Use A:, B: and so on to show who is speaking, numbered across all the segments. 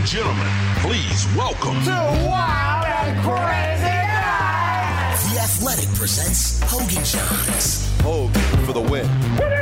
A: gentlemen, please welcome
B: to Wild and Crazy Guys.
C: The Athletic presents Hogan Johns.
D: Hogue for the win.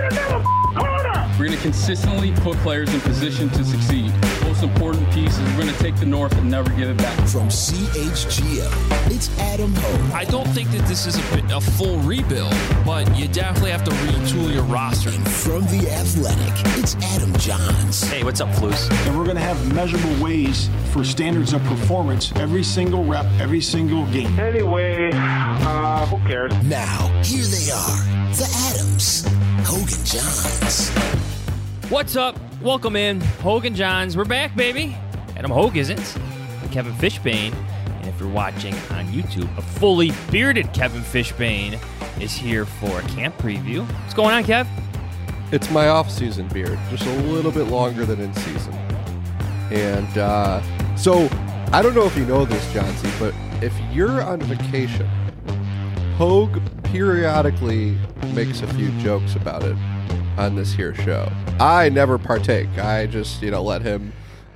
E: We're going to consistently put players in position to succeed. Most important piece is we're going to take the North and never give it back.
C: From CHGO, it's Adam Hogue.
F: I don't think that this is a full rebuild, but you definitely have to retool your roster.
C: And from The Athletic, it's Adam Johns.
G: Hey, what's up, Flus?
H: And we're going to have measurable ways for standards of performance every single rep, every single game.
I: Anyway, who cares?
C: Now, here they are, the Adams, Hogan Johns.
J: What's up? Welcome in, Hogan Johns. We're back, baby. Adam Hogue isn't. Kevin Fishbane. And if you're watching on YouTube, a fully bearded Kevin Fishbane is here for a camp preview. What's going on, Kev?
D: It's my off-season beard, just a little bit longer than in season. And so, I don't know if you know this, Johnsy, but if you're on vacation, Hogue periodically makes a few jokes about it on this here show. I never partake. I just, let him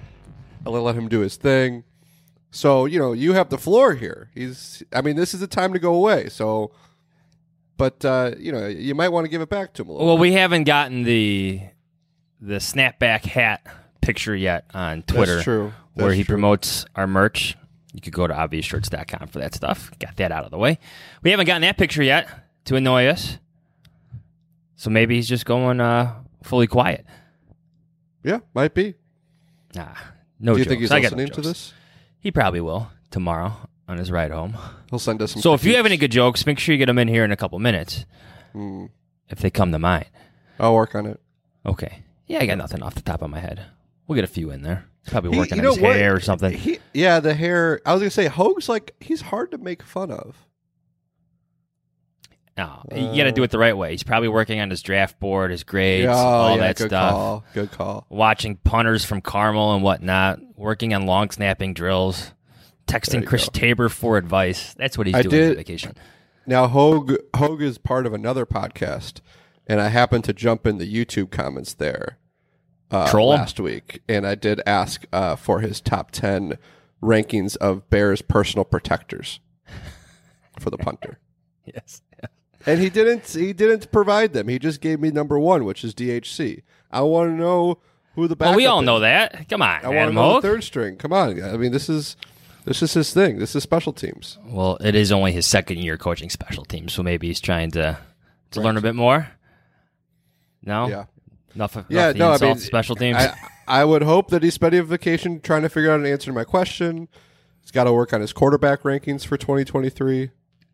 D: do his thing. So, you have the floor here. This is the time to go away. So, but, you might want to give it back to him a little bit.
J: We haven't gotten the snapback hat picture yet on Twitter.
D: That's true.
J: Where he promotes our merch. You could go to obviousshirts.com for that stuff. Got that out of the way. We haven't gotten that picture yet to annoy us. So maybe he's just going fully quiet.
D: Yeah, might be.
J: Nah, no jokes.
D: Do you think he's listening to this?
J: He probably will tomorrow on his ride home.
D: He'll send us some
J: So if you have any good jokes, make sure you get them in here in a couple minutes. If they come to mind.
D: I'll work on it.
J: Okay. Yeah, I got nothing off the top of my head. We'll get a few in there. He's probably working on his hair or something.
D: The hair. I was going to say, Hogue's he's hard to make fun of.
J: No, you got to do it the right way. He's probably working on his draft board, his grades, that
D: good
J: stuff.
D: Good call.
J: Watching punters from Carmel and whatnot. Working on long snapping drills. Texting Chris Tabor for advice. That's what he's doing on vacation.
D: Now, Hogue is part of another podcast, and I happened to jump in the YouTube comments there last week, and I did ask for his top 10 rankings of Bears personal protectors for the punter.
J: Yes.
D: And he didn't provide them. He just gave me number 1, which is DHC. I want to know who the backup
J: we all
D: is.
J: know that. Come on,
D: I want to know the third string. Come on. I mean, this is his thing. This is special teams.
J: Well, it is only his second year coaching special teams, so maybe he's trying to learn a bit more. No?
D: Yeah.
J: Enough special teams.
D: I would hope that he's spending a vacation trying to figure out an answer to my question. He's got to work on his quarterback rankings for 2023.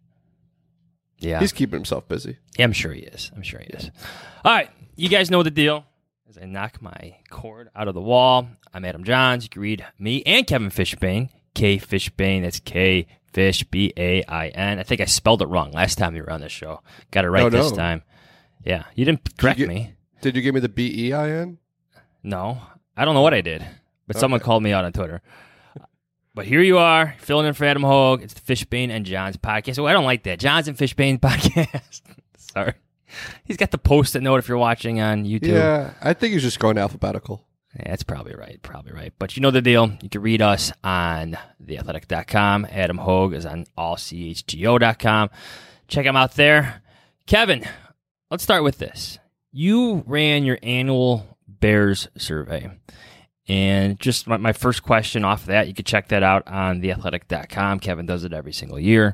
J: Yeah.
D: He's keeping himself busy.
J: Yeah, I'm sure he is. All right. You guys know the deal. As I knock my cord out of the wall, I'm Adam Johns. You can read me and Kevin Fishbane. K Fishbane. That's K Fish B-A-I-N. I think I spelled it wrong last time you were on this show. Got it right this time. Yeah. You didn't correct me.
D: Did you give me the B-E-I-N?
J: No. I don't know what I did, but someone called me out on Twitter. But here you are, filling in for Adam Hogue. It's the Fishbane and Johns podcast. Oh, I don't like that. Johns and Fishbane podcast. Sorry. He's got the post-it note if you're watching on YouTube.
D: Yeah, I think he's just going alphabetical.
J: Yeah, that's probably right. But you know the deal. You can read us on theathletic.com. Adam Hogue is on allchgo.com. Check him out there. Kevin, let's start with this. You ran your annual Bears survey. And just my first question off of that, you can check that out on theathletic.com. Kevin does it every single year.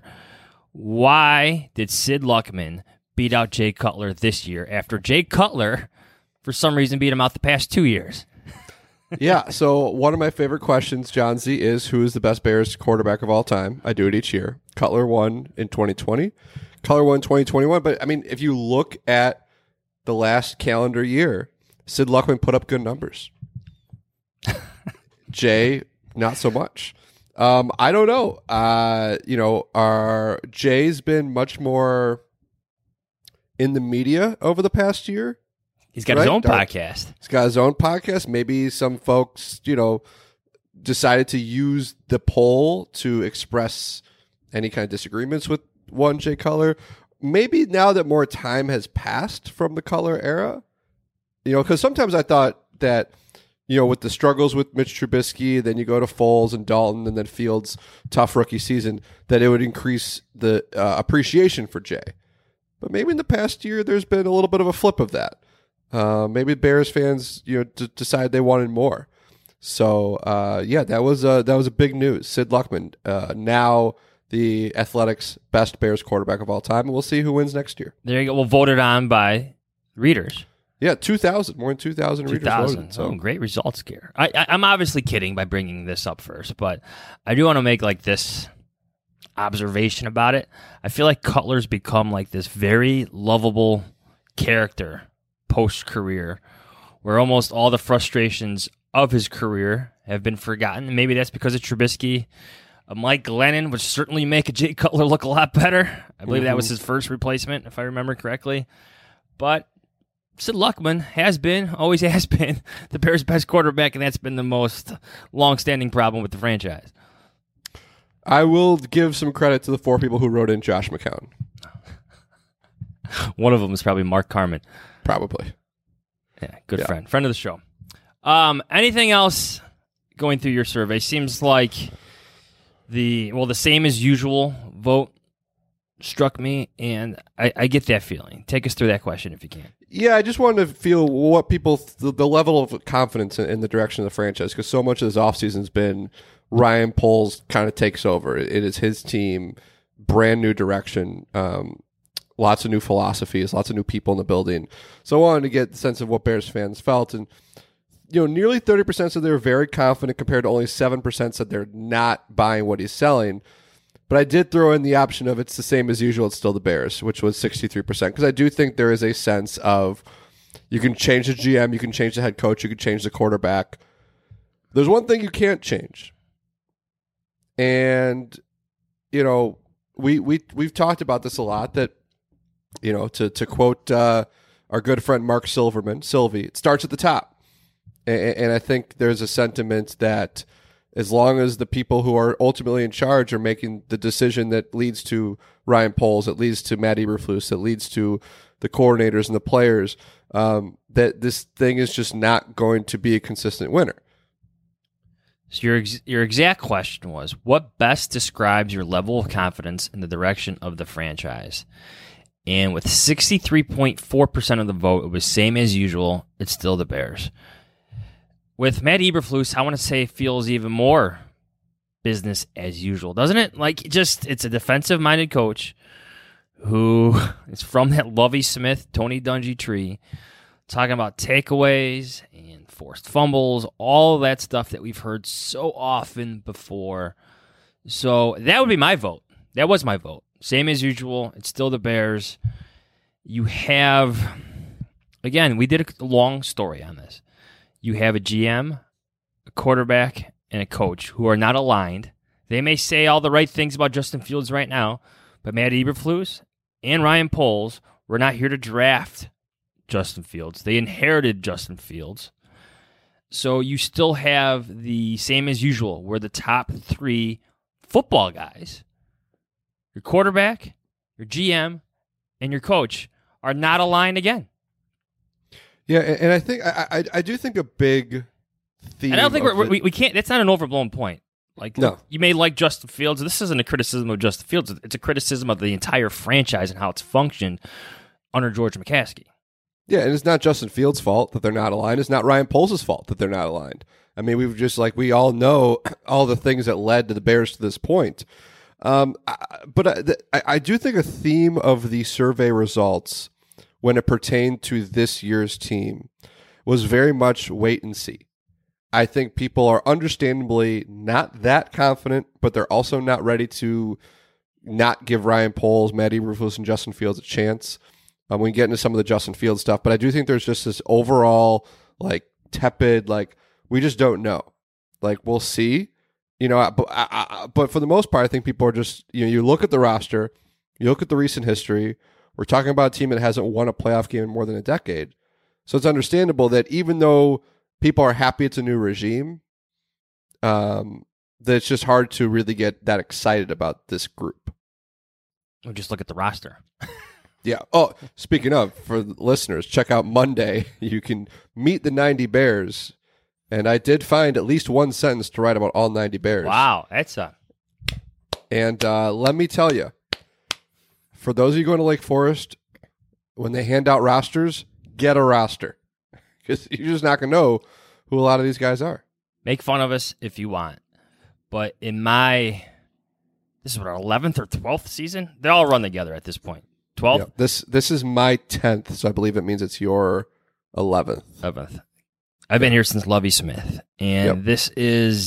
J: Why did Sid Luckman beat out Jay Cutler this year after Jay Cutler, for some reason, beat him out the past 2 years?
D: Yeah, so one of my favorite questions, John Z, is who is the best Bears quarterback of all time? I do it each year. Cutler won in 2020. Cutler won 2021. But, if you look at the last calendar year, Sid Luckman put up good numbers. Jay, not so much. I don't know. Jay's been much more in the media over the past year.
J: He's got his own podcast.
D: He's got his own podcast. Maybe some folks, decided to use the poll to express any kind of disagreements with one Jay Cutler. Maybe now that more time has passed from the Cutler era, because sometimes I thought that with the struggles with Mitch Trubisky, then you go to Foles and Dalton, and then Fields' tough rookie season, that it would increase the appreciation for Jay. But maybe in the past year, there's been a little bit of a flip of that. Maybe Bears fans, decide they wanted more. So that was a big news. Sid Luckman, now the Athletics' best Bears quarterback of all time, and we'll see who wins next year.
J: There you go. Well, voted on by readers.
D: Yeah, 2,000, more than 2,000 readers voted. So.
J: Oh, great results, Gare. I'm obviously kidding by bringing this up first, but I do want to make this observation about it. I feel like Cutler's become this very lovable character post-career, where almost all the frustrations of his career have been forgotten. Maybe that's because of Trubisky. Mike Glennon would certainly make a Jay Cutler look a lot better. I believe that was his first replacement, if I remember correctly. But Sid Luckman always has been, the Bears' best quarterback, and that's been the most long-standing problem with the franchise.
D: I will give some credit to the 4 people who wrote in Josh McCown.
J: One of them is probably Mark Carman.
D: Probably.
J: Yeah, good friend of the show. Anything else going through your survey? Seems like the same as usual vote struck me, and I get that feeling. Take us through that question if you can.
D: Yeah, I just wanted to feel what people, the level of confidence in the direction of the franchise, because so much of this offseason has been Ryan Poles kind of takes over. It is his team, brand new direction, lots of new philosophies, lots of new people in the building. So I wanted to get the sense of what Bears fans felt, and nearly 30% said they were very confident compared to only 7% said they're not buying what he's selling. But I did throw in the option of it's the same as usual, it's still the Bears, which was 63%, because I do think there is a sense of you can change the GM, you can change the head coach, you can change the quarterback. There's one thing you can't change. And, we've talked about this a lot, that, to quote our good friend Mark Silverman, Sylvie, it starts at the top. And I think there's a sentiment that as long as the people who are ultimately in charge are making the decision that leads to Ryan Poles, that leads to Matt Eberflus, that leads to the coordinators and the players, that this thing is just not going to be a consistent winner.
J: So your exact question was, what best describes your level of confidence in the direction of the franchise? And with 63.4% of the vote, it was same as usual. It's still the Bears. With Matt Eberflus, I want to say feels even more business as usual, doesn't it? It's a defensive-minded coach who is from that Lovie Smith, Tony Dungy tree, talking about takeaways and forced fumbles, all that stuff that we've heard so often before. So that would be my vote. That was my vote. Same as usual. It's still the Bears. You have, again, we did a long story on this. You have a GM, a quarterback, and a coach who are not aligned. They may say all the right things about Justin Fields right now, but Matt Eberflus and Ryan Poles were not here to draft Justin Fields. They inherited Justin Fields. So you still have the same as usual, where the top 3 football guys, your quarterback, your GM, and your coach, are not aligned again.
D: Yeah, and I think I do think a big theme.
J: And I don't think we can't. That's not an overblown point.
D: No.
J: You may like Justin Fields. This isn't a criticism of Justin Fields. It's a criticism of the entire franchise and how it's functioned under George McCaskey.
D: Yeah, and it's not Justin Fields' fault that they're not aligned. It's not Ryan Poles' fault that they're not aligned. I mean, we've just we all know all the things that led to the Bears to this point. But I do think a theme of the survey results when it pertained to this year's team was very much wait and see. I think people are understandably not that confident, but they're also not ready to not give Ryan Poles, Matt Eberflus, and Justin Fields a chance. We can get into some of the Justin Fields stuff, but I do think there's just this overall tepid, we just don't know. We'll see. But for the most part, I think people are just, you look at the roster, you look at the recent history. We're talking about a team that hasn't won a playoff game in more than a decade. So it's understandable that even though people are happy it's a new regime, that it's just hard to really get that excited about this group.
J: Or just look at the roster.
D: Yeah. Oh, speaking of, for the listeners, check out Monday. You can meet the 90 Bears And I did find at least one sentence to write about all 90 Bears.
J: Wow, that's a...
D: And let me tell you, for those of you going to Lake Forest, when they hand out rosters, get a roster. Because you're just not going to know who a lot of these guys are.
J: Make fun of us if you want. But in my... This is what, our 11th or 12th season? They all run together at this point. 12th?
D: Yep. This is my 10th, so I believe it means it's your 11th.
J: 11th. I've been here since Lovie Smith. And this is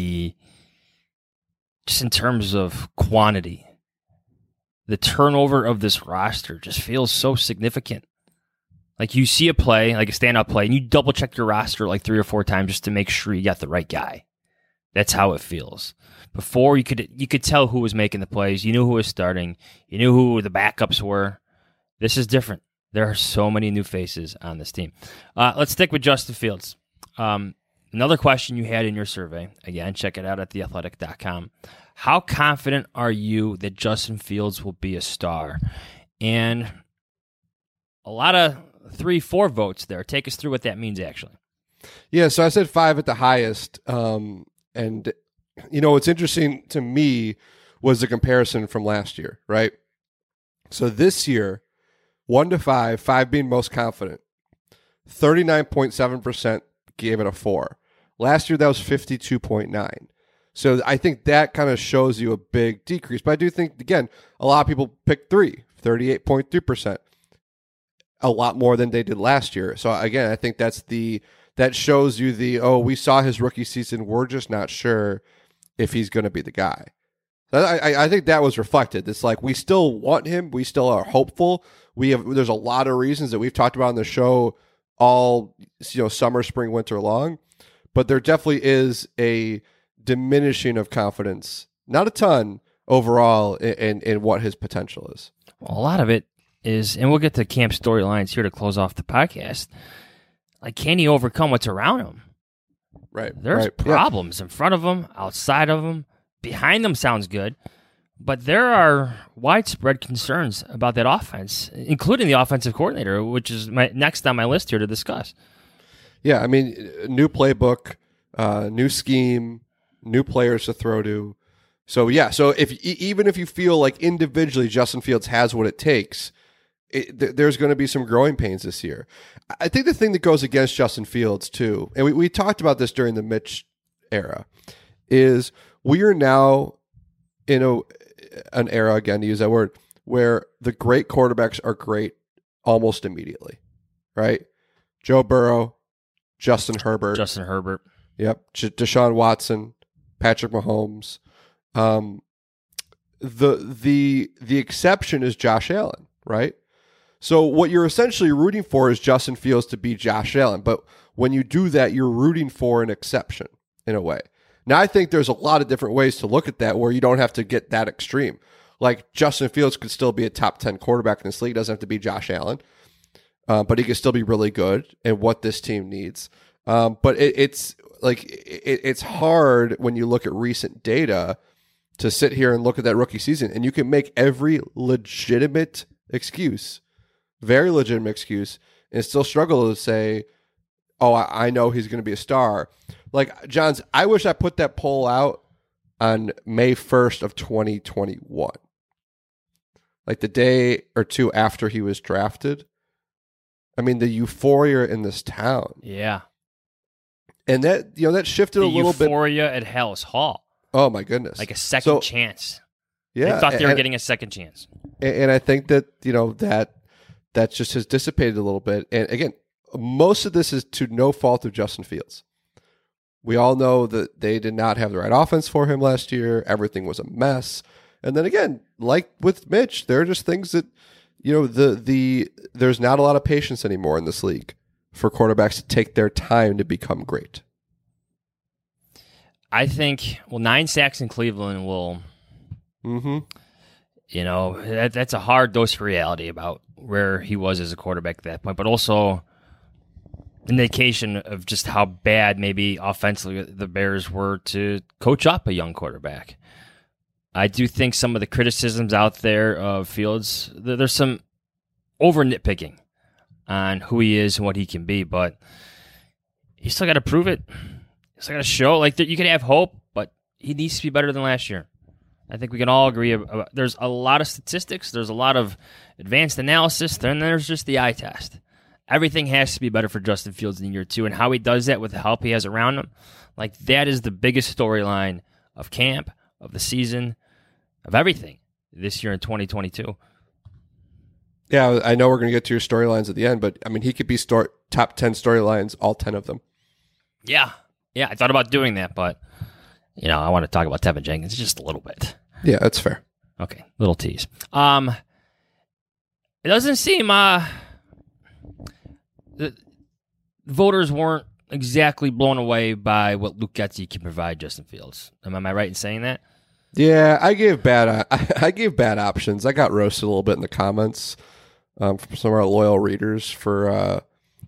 J: just in terms of quantity, the turnover of this roster just feels so significant. Like you see a play, like a standout play, and you double check your roster like 3 or 4 times just to make sure you got the right guy. That's how it feels. Before you could tell who was making the plays, you knew who was starting, you knew who the backups were. This is different. There are so many new faces on this team. Let's stick with Justin Fields. Another question you had in your survey. Again, check it out at theathletic.com. How confident are you that Justin Fields will be a star? And a lot of 3-4 votes there. Take us through what that means, actually.
D: Yeah, so I said 5 at the highest. And, what's interesting to me was the comparison from last year, right? So this year, 1 to 5, 5 being most confident, 39.7% gave it a 4. Last year, that was 52.9. So I think that kind of shows you a big decrease. But I do think, again, a lot of people picked 3, 38.3%. A lot more than they did last year. So again, I think that shows you we saw his rookie season. We're just not sure if he's going to be the guy. I think that was reflected. It's like we still want him. We still are hopeful. There's a lot of reasons that we've talked about on the show all summer, spring, winter long. But there definitely is a diminishing of confidence, not a ton overall, in what his potential is.
J: Well, a lot of it is, and we'll get to camp storylines here to close off the podcast. Like, can he overcome what's around him?
D: Right.
J: There's problems in front of him, outside of him, behind them sounds good, but there are widespread concerns about that offense, including the offensive coordinator, which is next on my list here to discuss.
D: Yeah, I mean, new playbook, new scheme, new players to throw to. So even if you feel like individually Justin Fields has what it takes, there's going to be some growing pains this year. I think the thing that goes against Justin Fields too, and we talked about this during the Mitch era, is we are now in an era, again to use that word, where the great quarterbacks are great almost immediately, right? Joe Burrow, Justin Herbert. Yep. Deshaun Watson, Patrick Mahomes. The exception is Josh Allen, right? So what you're essentially rooting for is Justin Fields to be Josh Allen. But when you do that, you're rooting for an exception in a way. Now, I think there's a lot of different ways to look at that where you don't have to get that extreme. Like Justin Fields could still be a top 10 quarterback in this league. Doesn't have to be Josh Allen. But he could still be really good at what this team needs. But it's hard when you look at recent data to sit here and look at that rookie season, and you can make every legitimate excuse, very legitimate excuse, and still struggle to say, oh, I know he's going to be a star. Like, Johns, I wish I put that poll out on May 1st of 2021. Like the day or two after he was drafted. I mean, the euphoria in this town.
J: Yeah.
D: And that shifted a little bit.
J: Euphoria at Hallis Hall.
D: Oh, my goodness.
J: Like a second chance.
D: Yeah.
J: They thought they were getting a second chance.
D: And I think that, that just has dissipated a little bit. And again, most of this is to no fault of Justin Fields. We all know that they did not have the right offense for him last year. Everything was a mess. And then again, like with Mitch, there are just things that, there's not a lot of patience anymore in this league for quarterbacks to take their time to become great.
J: I think, 9 sacks in Cleveland will, that's a hard dose of reality about where he was as a quarterback at that point, but also indication of just how bad maybe offensively the Bears were to coach up a young quarterback. I do think some of the criticisms out there of Fields, there's some over nitpicking on who he is and what he can be, but he's still got to prove it. It's not going to show. Like, you can have hope, but he needs to be better than last year. I think we can all agree. There's a lot of statistics. There's a lot of advanced analysis. Then there's just the eye test. Everything has to be better for Justin Fields in year 2, and how he does that with the help he has around him, like that is the biggest storyline of camp, of the season, of everything this year in 2022.
D: Yeah, I know we're going to get to your storylines at the end, but I mean, he could be top 10 storylines, all 10 of them.
J: Yeah, I thought about doing that, but I want to talk about Tevin Jenkins just a little bit.
D: Yeah, that's fair.
J: Okay, little tease. It doesn't seem the voters weren't exactly blown away by what Luke Getsy can provide Justin Fields. Am I right in saying that?
D: Yeah, I gave bad options. I got roasted a little bit in the comments from some of our loyal readers for.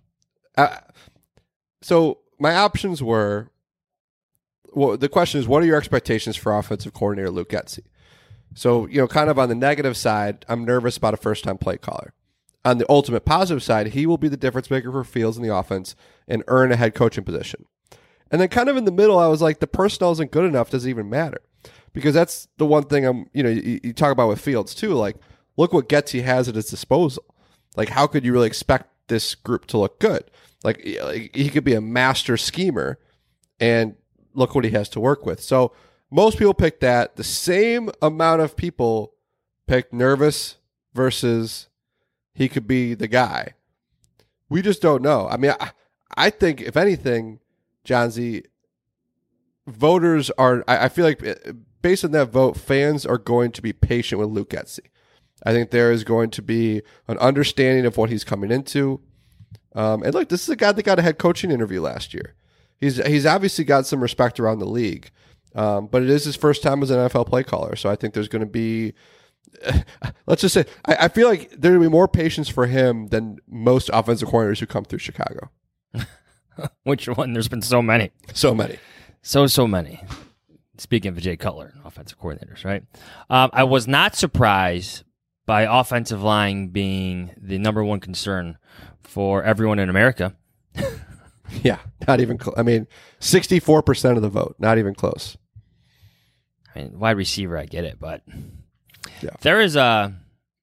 D: So my options were. Well, the question is, what are your expectations for offensive coordinator Luke Getsy? So, kind of on the negative side, I'm nervous about a first-time play caller. On the ultimate positive side, he will be the difference maker for Fields in the offense and earn a head coaching position. And then kind of in the middle, I was like, the personnel isn't good enough, does it even matter? Because that's the one thing you talk about with Fields too. Like, look what Getsy has at his disposal. Like, how could you really expect this group to look good? Like he could be a master schemer, and look what he has to work with. So most people picked that. The same amount of people picked nervous versus he could be the guy. We just don't know. I mean, I think, if anything, John Z, voters are, I feel like based on that vote, fans are going to be patient with Luke Getsy. I think there is going to be an understanding of what he's coming into. And look, this is a guy that got a head coaching interview last year. He's obviously got some respect around the league, but it is his first time as an NFL play caller. So I think there's going to be, let's just say, I feel like there will be more patience for him than most offensive coordinators who come through Chicago.
J: Which one? There's been so many.
D: So many.
J: So many. Speaking of Jay Cutler, offensive coordinators, right? I was not surprised by offensive line being the number one concern for everyone in America.
D: Yeah, not even close. I mean, 64% of the vote, not even close.
J: I mean, wide receiver, I get it, but
D: yeah.
J: There is a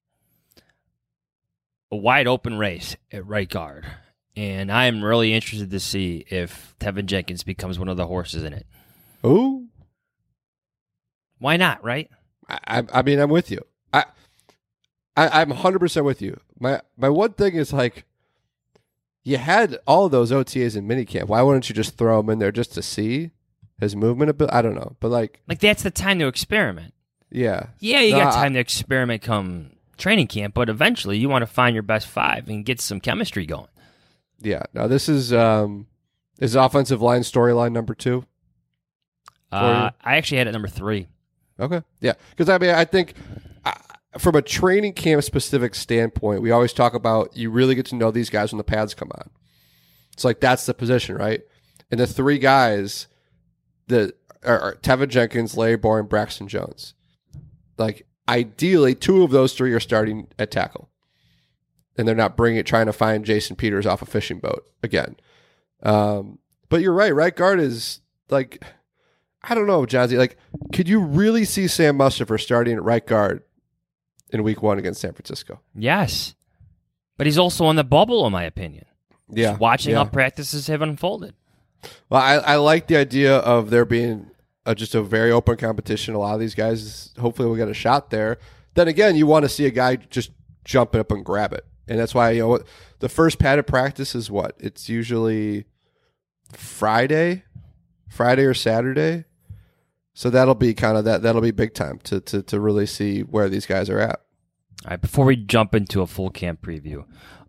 J: wide open race at right guard, and I am really interested to see if Tevin Jenkins becomes one of the horses in it.
D: Ooh.
J: Why not, right?
D: I mean, I'm with you. I'm 100% with you. My one thing is, like, you had all of those OTAs in minicamp. Why wouldn't you just throw him in there just to see his movement a bit? I don't know. But like
J: that's the time to experiment.
D: Yeah.
J: Yeah, you got time to experiment come training camp, but eventually you want to find your best five and get some chemistry going.
D: Yeah. Now this is offensive line storyline number 2?
J: I actually had it number 3.
D: Okay. Yeah. Because I mean, I think from a training camp specific standpoint, we always talk about you really get to know these guys when the pads come on. It's like that's the position, right? And the 3 guys that are Tevin Jenkins, Larry Bohr, and Braxton Jones. Like ideally, 2 of those 3 are starting at tackle, and they're not trying to find Jason Peters off a fishing boat again. But you're right. Right guard is like, I don't know, Jazzy. Like, could you really see Sam Mustipher starting at right guard in week 1 against San Francisco?
J: Yes. But he's also on the bubble, in my opinion.
D: Yeah.
J: Just watching how practices have unfolded.
D: Well, I like the idea of there being just a very open competition. A lot of these guys, hopefully, will get a shot there. Then again, you want to see a guy just jump up and grab it. And that's why, the first padded practice is what? It's usually Friday or Saturday. So that'll be kind of that'll be big time to really see where these guys are at.
J: All right, before we jump into a full camp preview,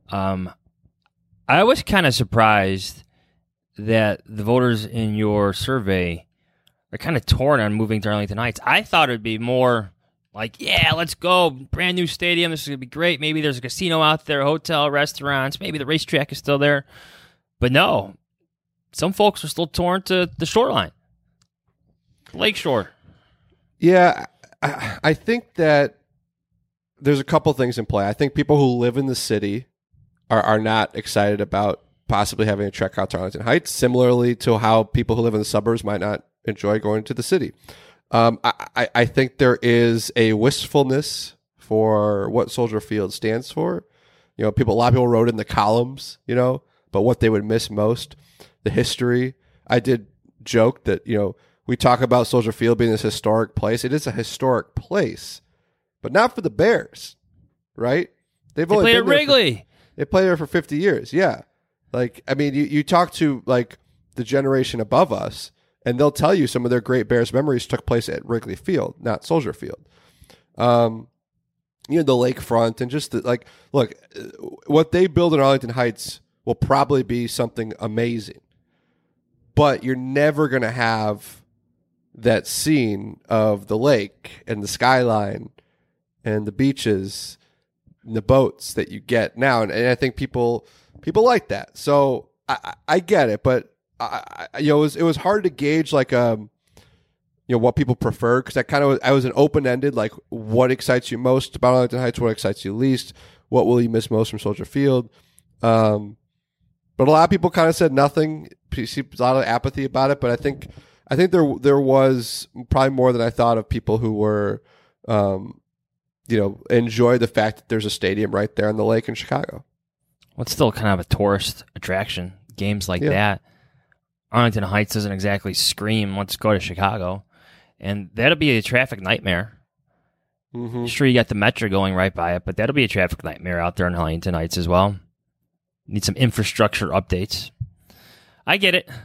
J: I was kind of surprised that the voters in your survey are kind of torn on moving to Arlington Heights. I thought it would be more like, yeah, let's go, brand new stadium, this is going to be great. Maybe there's a casino out there, hotel, restaurants, maybe the racetrack is still there. But no, some folks are still torn to the shoreline. Lakeshore.
D: Yeah, I think that there's a couple things in play. I think people who live in the city are not excited about possibly having a trek out to Arlington Heights, similarly to how people who live in the suburbs might not enjoy going to the city. I think there is a wistfulness for what Soldier Field stands for. A lot of people wrote in the columns, but what they would miss most, the history. I did joke that, we talk about Soldier Field being this historic place. It is a historic place, but not for the Bears, right?
J: They played at Wrigley.
D: They played there for 50 years. Yeah. You talk to the generation above us, and they'll tell you some of their great Bears memories took place at Wrigley Field, not Soldier Field. The lakefront and just look, what they build in Arlington Heights will probably be something amazing, but you're never going to have that scene of the lake and the skyline and the beaches and the boats that you get now. And I think people like that. So I get it, but it was hard to gauge what people prefer, because I was an open-ended, what excites you most about Arlington Heights, what excites you least, what will you miss most from Soldier Field. But a lot of people kind of said nothing. You see a lot of apathy about it, but I think there was probably more than I thought of people who were, enjoy the fact that there's a stadium right there on the lake in Chicago.
J: Well, it's still kind of a tourist attraction. Games like that. Arlington Heights doesn't exactly scream, let's go to Chicago. And that'll be a traffic nightmare. Mm-hmm. Sure, you got the Metro going right by it, but that'll be a traffic nightmare out there in Arlington Heights as well. Need some infrastructure updates. I get it.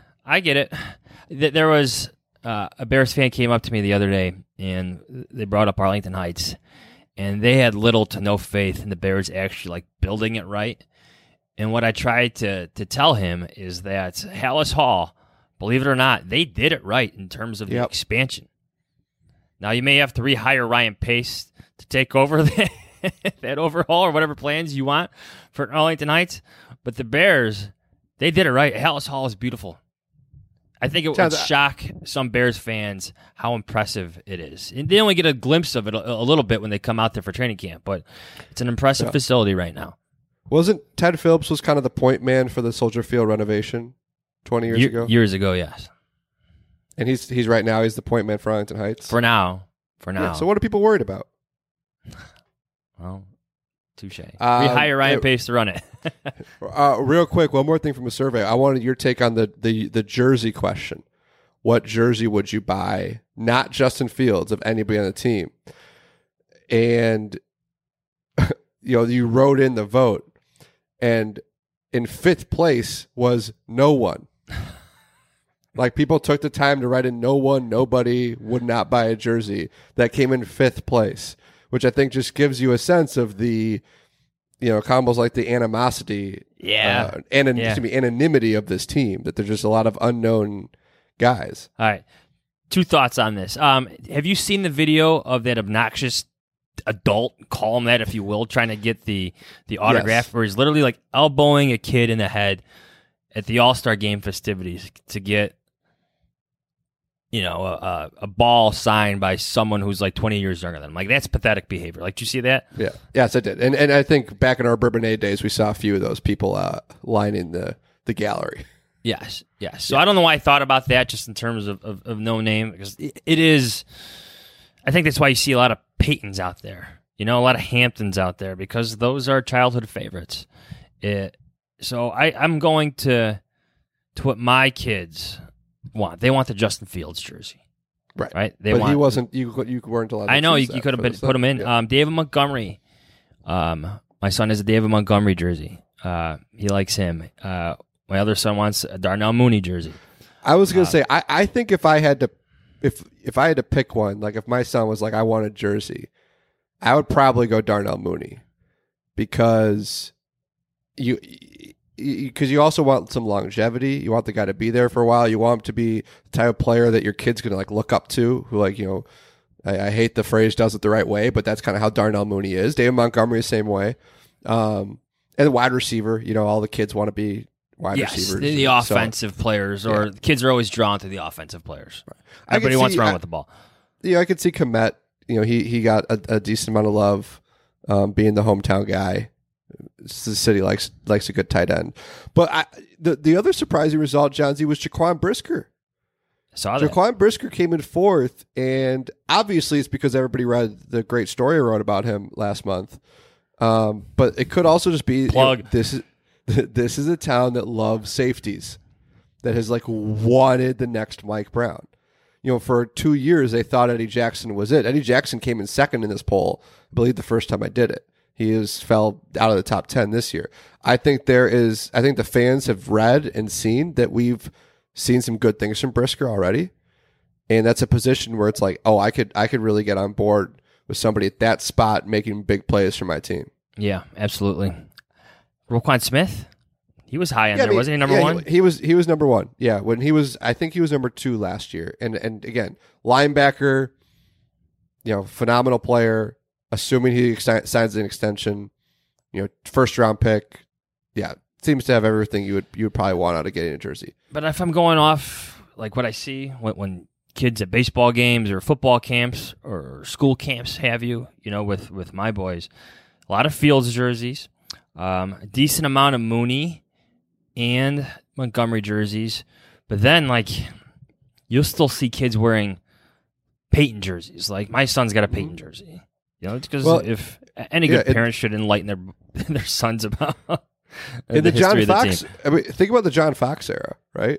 J: There was a Bears fan came up to me the other day, and they brought up Arlington Heights, and they had little to no faith in the Bears actually building it right. And what I tried to tell him is that Hallis Hall, believe it or not, they did it right in terms of the expansion. Now, you may have to rehire Ryan Pace to take over that overhaul or whatever plans you want for Arlington Heights, but the Bears, they did it right. Hallis Hall is beautiful. I think it would shock some Bears fans how impressive it is. And they only get a glimpse of it a little bit when they come out there for training camp, but it's an impressive facility right now.
D: Wasn't Ted Phillips was kind of the point man for the Soldier Field renovation 20 years ago?
J: Years ago, yes.
D: And he's right now, he's the point man for Arlington Heights?
J: For now.
D: Yeah, so what are people worried about?
J: Well, touche. Rehire Ryan Pace to run it.
D: Real quick, one more thing from a survey. I wanted your take on the jersey question. What jersey would you buy? Not Justin Fields, of anybody on the team. And you wrote in the vote, and in fifth place was no one. People took the time to write in no one, nobody would not buy a jersey. That came in fifth place, which I think just gives you a sense of the, combos the animosity, anonymity of this team, that there's just a lot of unknown guys.
J: All right. Two thoughts on this. Have you seen the video of that obnoxious adult, call him that if you will, trying to get the autograph, where he's literally elbowing a kid in the head at the All-Star Game festivities to get a ball signed by someone who's 20 years younger than him? That's pathetic behavior. Did you see that?
D: Yeah. Yes, I did. And I think back in our Bourbonnais days, we saw a few of those people lining the gallery.
J: Yes. So I don't know why I thought about that, just in terms of no name, because it is. I think that's why you see a lot of Peytons out there, a lot of Hamptons out there, because those are childhood favorites. So I'm going to what my kids want. They want the Justin Fields jersey. Right?
D: He wasn't, you weren't allowed to.
J: I know, you could have put him in. Yeah. David Montgomery. My son has a David Montgomery jersey. He likes him. My other son wants a Darnell Mooney jersey.
D: I was going to say, I think if I had to pick one, if my son was I want a jersey, I would probably go Darnell Mooney, because you also want some longevity. You want the guy to be there for a while. You want him to be the type of player that your kid's going to look up to, who I hate the phrase does it the right way, but that's kind of how Darnell Mooney is. David Montgomery the same way. And the wide receiver, all the kids want to be wide receivers.
J: The offensive players, or kids are always drawn to the offensive players. Right. Everybody wants to run with the ball.
D: I could see Kmet. He got a decent amount of love, being the hometown guy. The city likes a good tight end. But the other surprising result, John Z, was Jaquan Brisker.
J: Saw that.
D: Jaquan Brisker came in fourth, and obviously it's because everybody read the great story I wrote about him last month. But it could also just be
J: Plug.
D: This is a town that loves safeties, that has wanted the next Mike Brown. For 2 years they thought Eddie Jackson was it. Eddie Jackson came in second in this poll, I believe, the first time I did it. He fell out of the top 10 this year. I think the fans have read and seen that we've seen some good things from Brisker already. And that's a position where it's I could really get on board with somebody at that spot making big plays for my team.
J: Yeah, absolutely. Roquan Smith, he was high on there, wasn't he? Number one?
D: He was number one. Yeah, I think he was number 2 last year. And again, linebacker, phenomenal player. Assuming he signs an extension, first round pick, seems to have everything you would probably want out of getting a jersey.
J: But if I'm going off what I see when kids at baseball games or football camps or school camps with my boys, a lot of Fields jerseys, a decent amount of Mooney and Montgomery jerseys, but then you'll still see kids wearing Peyton jerseys. My son's got a Peyton jersey. It's because if any good parent should enlighten their sons about the history of the team.
D: I mean, think about the John Fox era, right?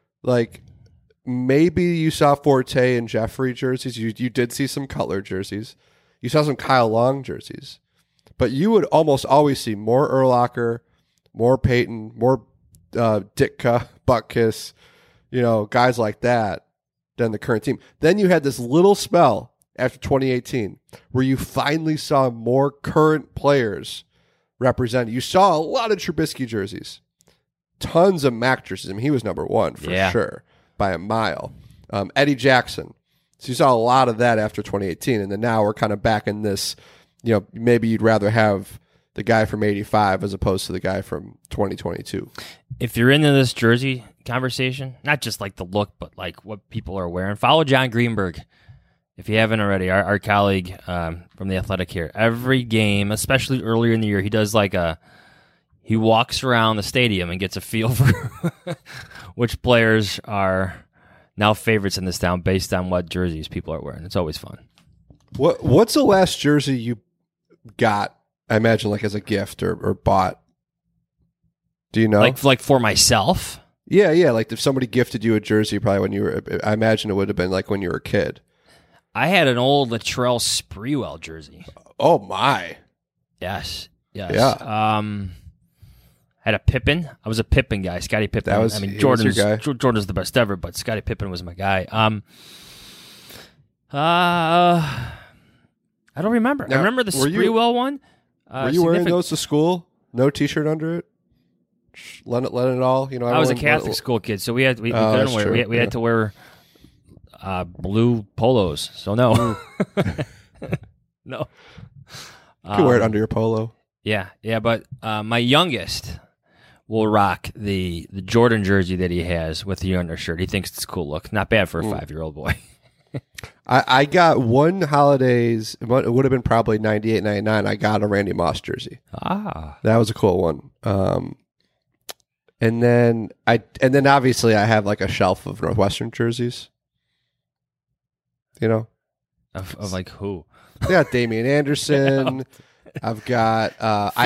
D: Maybe you saw Forte and Jeffrey jerseys. You did see some Cutler jerseys. You saw some Kyle Long jerseys. But you would almost always see more Urlacher, more Peyton, more Ditka, Butkus, guys like that than the current team. Then you had this little spell after 2018, where you finally saw more current players represented. You saw a lot of Trubisky jerseys, tons of Mac jerseys. I mean, he was number 1 for sure by a mile. Eddie Jackson. So you saw a lot of that after 2018, and then now we're kind of back in this. Maybe you'd rather have the guy from 85 as opposed to the guy from 2022.
J: If you're into this jersey conversation, not just the look, but what people are wearing, follow John Greenberg. If you haven't already, our colleague from The Athletic here, every game, especially earlier in the year, he does he walks around the stadium and gets a feel for which players are now favorites in this town based on what jerseys people are wearing. It's always fun.
D: What's the last jersey you got, I imagine, as a gift or bought? Do you know?
J: For myself?
D: Yeah. If somebody gifted you a jersey, probably when you were, I imagine it would have been when you were a kid.
J: I had an old Latrell Sprewell jersey.
D: Oh my!
J: Yes.
D: Yeah.
J: Had a Pippen. I was a Pippen guy. Scottie Pippen. Jordan's the best ever, but Scottie Pippen was my guy. I don't remember.
D: Now,
J: I remember the Sprewell one.
D: Were you wearing those to school? No T-shirt under it. Let it all.
J: I was a Catholic school kid, so we couldn't wear. We had to wear blue polos. So no, no.
D: You can wear it under your polo.
J: Yeah. But my youngest will rock the Jordan jersey that he has with the undershirt. He thinks it's a cool look. Not bad for a 5-year-old boy.
D: I got one holidays. It would have been probably 98, 99. I got a Randy Moss jersey. That was a cool one. And then obviously I have a shelf of Northwestern jerseys.
J: Of who?
D: I got Damian Anderson. I've got I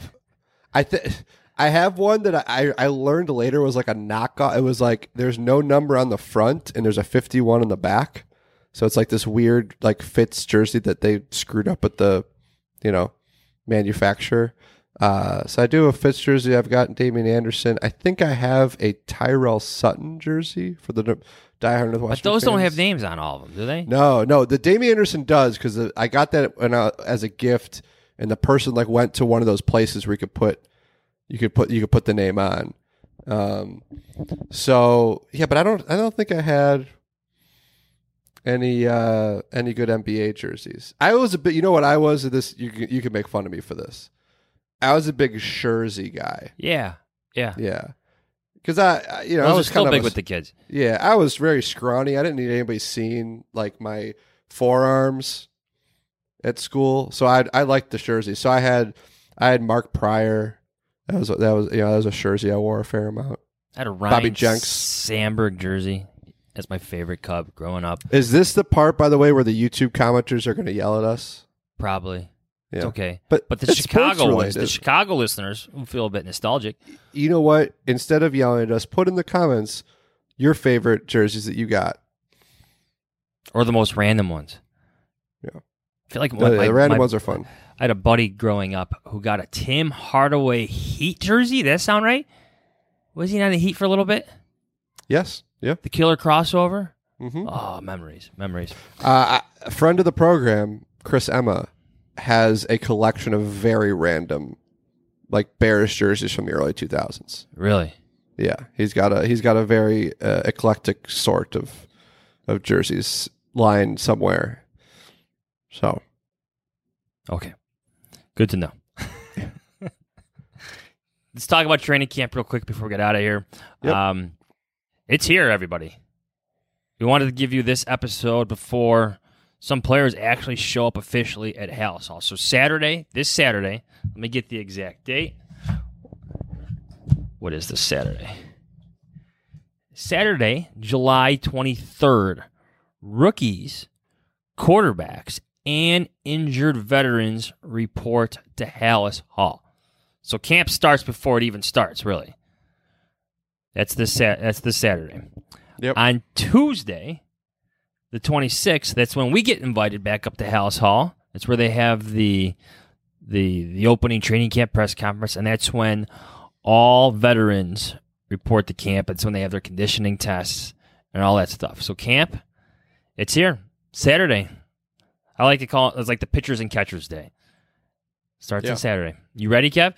D: have one that I learned later was a knockoff. It was there's no number on the front and there's a 51 on the back. So it's this weird Fitz jersey that they screwed up with the manufacturer. So I do a Fitz jersey. I've got Damian Anderson. I think I have a Tyrell Sutton jersey for the diehard Northwestern.
J: But those
D: fans.
J: don't have names on all of them, do they?
D: No. The Damian Anderson does because I got that as a gift, and the person went to one of those places where you could put the name on. So yeah, but I don't think I had any good NBA jerseys. I was a bit. You know what I was? This you can make fun of me for this. I was a big Jersey guy.
J: Yeah.
D: Because I was
J: still
D: kind of
J: big with the kids.
D: Yeah, I was very scrawny. I didn't need anybody seeing my forearms at school, so I liked the jersey. So I I had Mark Pryor. That was a jersey I wore a fair amount.
J: I had a Ryan
D: Bobby Jenks
J: Sandberg jersey. That's my favorite Cub growing up.
D: Is this the part, by the way, where the YouTube commenters are going to yell at us?
J: Probably.
D: Yeah.
J: It's okay.
D: But
J: the Chicago ones, the Chicago listeners will feel a bit nostalgic.
D: You know what? Instead of yelling at us, put in the comments your favorite jerseys that you got.
J: Or the most random ones.
D: Yeah.
J: I feel like
D: the random ones are fun.
J: I had a buddy growing up who got a Tim Hardaway Heat jersey. Does that sound right? Was he on the Heat for a little bit?
D: Yes. Yeah.
J: The killer crossover?
D: Mm-hmm.
J: Oh, memories.
D: A friend of the program, Chris Emma, has a collection of very random, like Bears jerseys from the early 2000s.
J: Really?
D: Yeah. He's got a very eclectic sort of jerseys lying somewhere. So.
J: Okay. Good to know. Let's talk about training camp real quick before we get out of here. Yep. It's here, everybody. We wanted to give you this episode before some players actually show up officially at Halas Hall. So this Saturday, let me get the exact date. What is this Saturday? Saturday, July 23rd. Rookies, quarterbacks, and injured veterans report to Halas Hall. So camp starts before it even starts, really. That's this Saturday.
D: Yep.
J: On Tuesday, the 26th, that's when we get invited back up to Halas Hall. That's where they have the opening training camp press conference, and that's when all veterans report to camp. That's when they have their conditioning tests and all that stuff. So camp, it's here. Saturday. I like to call it, it's like the pitchers and catchers day. Starts on Saturday. You ready, Kev?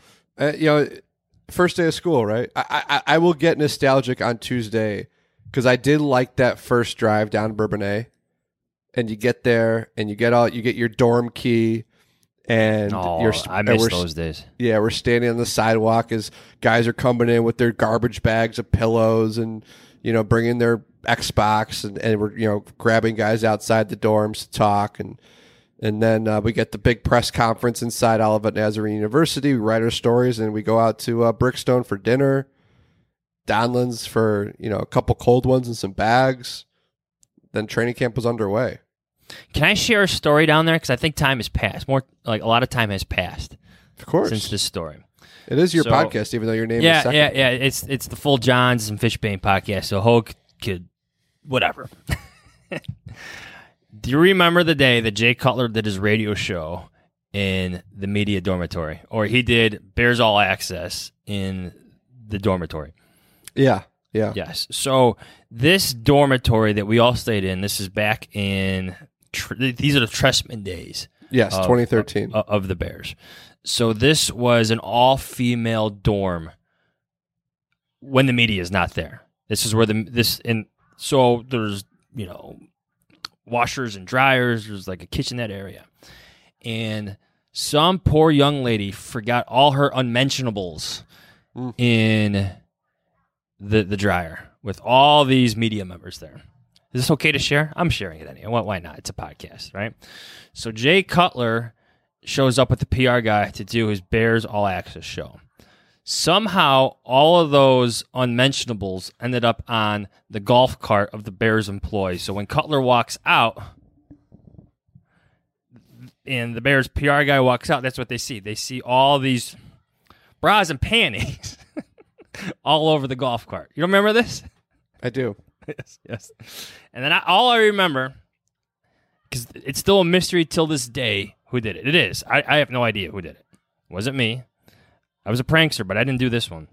D: First day of school, right? I will get nostalgic on Tuesday because I did like that first drive down Bourbonnais, and you get there and you get your dorm key, and
J: I miss those days.
D: Yeah, we're standing on the sidewalk as guys are coming in with their garbage bags of pillows and bringing their Xbox, and we're grabbing guys outside the dorms to talk, and then we get the big press conference inside Olivet Nazarene University. We write our stories, and we go out to Brickstone for dinner, Donlands for a couple cold ones and some bags. Then training camp was underway.
J: Can I share a story down there? Because I think time has passed. More like a lot of time has passed.
D: Of course,
J: since this story.
D: It is your podcast, even though your name is second.
J: Yeah. It's the Full Johns and Fishbane podcast. So Hogue could, whatever. Do you remember the day that Jay Cutler did his radio show in the media dormitory? Or he did Bears All Access in the dormitory?
D: Yeah.
J: Yes. So this dormitory that we all stayed in, this is back in, these are the Trestman days.
D: Yes, 2013.
J: Of the Bears. So this was an all-female dorm when the media is not there. This is where so there's, washers and dryers. There's like a kitchenette area. And some poor young lady forgot all her unmentionables in the dryer with all these media members there. Is this okay to share? I'm sharing it anyway. Why not? It's a podcast, right? So Jay Cutler shows up with the PR guy to do his Bears All Access show. Somehow, all of those unmentionables ended up on the golf cart of the Bears employees. So when Cutler walks out and the Bears PR guy walks out, that's what they see. They see all these bras and panties all over the golf cart. You don't remember this?
D: I do.
J: Yes. And then all I remember, because it's still a mystery till this day, who did it. It is. I have no idea who did it. It wasn't me. I was a prankster, but I didn't do this one.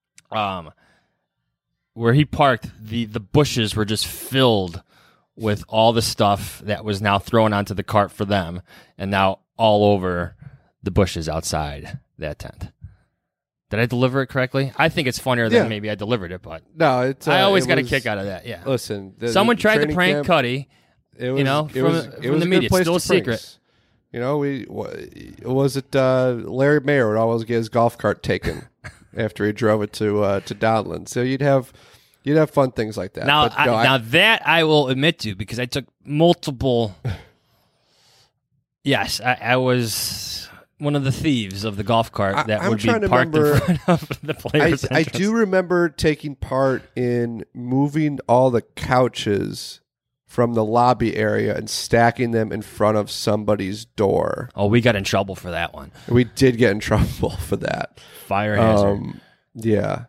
J: Where he parked, the bushes were just filled with all the stuff that was now thrown onto the cart for them, and now all over the bushes outside that tent. Did I deliver it correctly? I think it's funnier than maybe I delivered it, but
D: no,
J: I always got a kick out of that. Yeah.
D: Listen,
J: someone tried to prank
D: camp,
J: Cuddy.
D: It was,
J: from the media. It's still a secret.
D: Was it Larry Mayer would always get his golf cart taken after he drove it to Donlan. So you'd have fun things like that.
J: Now, that I will admit to, because I took multiple. Yes, I was one of the thieves of the golf cart that
D: I'm
J: would be
D: trying to
J: parked in
D: remember-
J: front of the players'
D: I
J: entrance.
D: do remember taking part in moving all the couches from the lobby area and stacking them in front of somebody's door.
J: Oh, we got in trouble for that one.
D: We did get in trouble for that.
J: Fire hazard.
D: Yeah.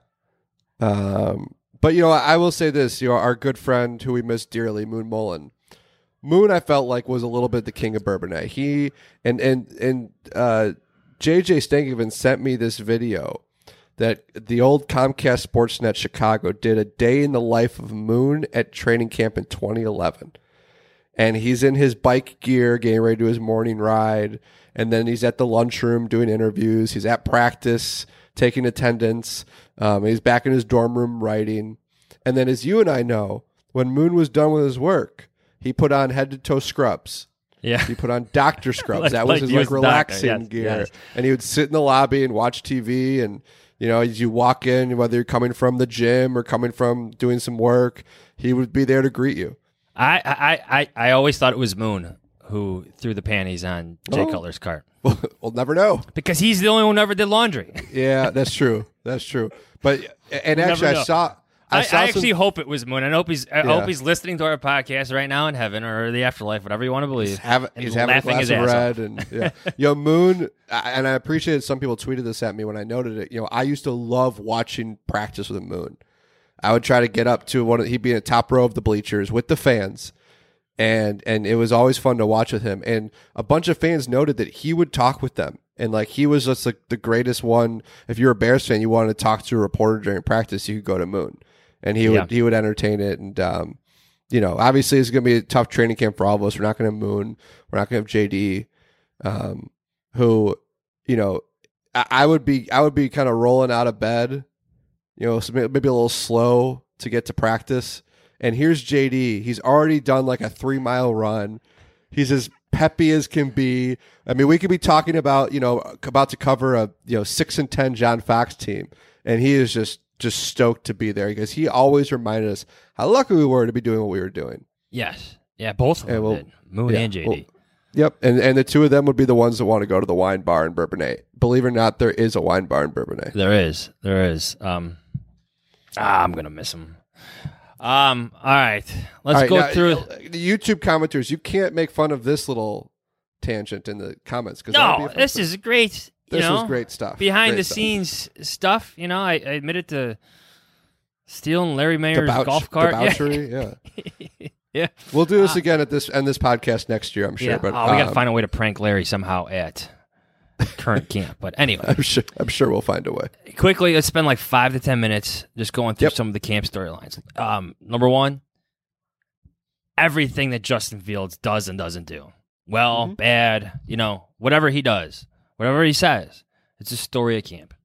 D: But, I will say this, our good friend who we miss dearly, Moon Mullen. Moon, I felt like, was a little bit the king of Bourbonnais. He and JJ Stankoven sent me this video that the old Comcast Sportsnet Chicago did a day in the life of Moon at training camp in 2011. And he's in his bike gear getting ready to do his morning ride. And then he's at the lunchroom doing interviews. He's at practice taking attendance. He's back in his dorm room writing. And then, as you and I know, when Moon was done with his work, he put on head-to-toe scrubs.
J: Yeah.
D: He put on doctor scrubs. That
J: like
D: was his
J: he was the
D: relaxing
J: doctor. Yes,
D: gear.
J: yes.
D: And he would sit in the lobby and watch TV. And, as you walk in, whether you're coming from the gym or coming from doing some work, he would be there to greet you.
J: I always thought it was Moon who threw the panties on Jay Cutler's cart.
D: We'll never know.
J: Because he's the only one who ever did laundry.
D: Yeah, that's true. That's true. But, and actually,
J: never know.
D: I
J: I
D: saw
J: actually hope it was Moon. I hope he's
D: Yeah.
J: listening to our podcast right now in heaven or the afterlife, whatever you want to believe.
D: He's having a
J: laughing
D: glass
J: his
D: of
J: ass
D: red,
J: off.
D: and Moon. And I appreciate some people tweeted this at me when I noted it. I used to love watching practice with Moon. I would try to get up to he'd be in the top row of the bleachers with the fans, and it was always fun to watch with him. And a bunch of fans noted that he would talk with them, and like he was just like the greatest one. If you're a Bears fan, you wanted to talk to a reporter during practice, you could go to Moon. And he would entertain it, and obviously it's going to be a tough training camp for all of us. We're not going to have Moon, we're not going to have JD, who, I would be kind of rolling out of bed, so maybe a little slow to get to practice. And here's JD. He's already done like a 3-mile run. He's as peppy as can be. I mean, we could be talking about about to cover a 6-10 John Fox team, and he is just stoked to be there because he always reminded us how lucky we were to be doing what we were doing.
J: Yes. Yeah, both of them did. Moon and JD.
D: Well, yep. And the two of them would be the ones that want to go to the wine bar in Bourbonnais. Believe it or not, there is a wine bar in Bourbonnais.
J: There is. I'm going to miss him. All right. Let's go through.
D: The YouTube commenters, you can't make fun of this little tangent in the comments.
J: No, this is great.
D: This was great stuff.
J: Behind the scenes stuff. I admitted to stealing Larry Mayer's golf cart.
D: Debauchery, yeah.
J: Yeah.
D: We'll do this again at this podcast next year, I'm sure.
J: Yeah.
D: But
J: we got to find a way to prank Larry somehow at current camp. But anyway.
D: I'm sure we'll find a way.
J: Quickly, let's spend like 5 to 10 minutes just going through some of the camp storylines. Number one, everything that Justin Fields does and doesn't do. Well, bad, whatever he does. Whatever he says, it's a story of camp.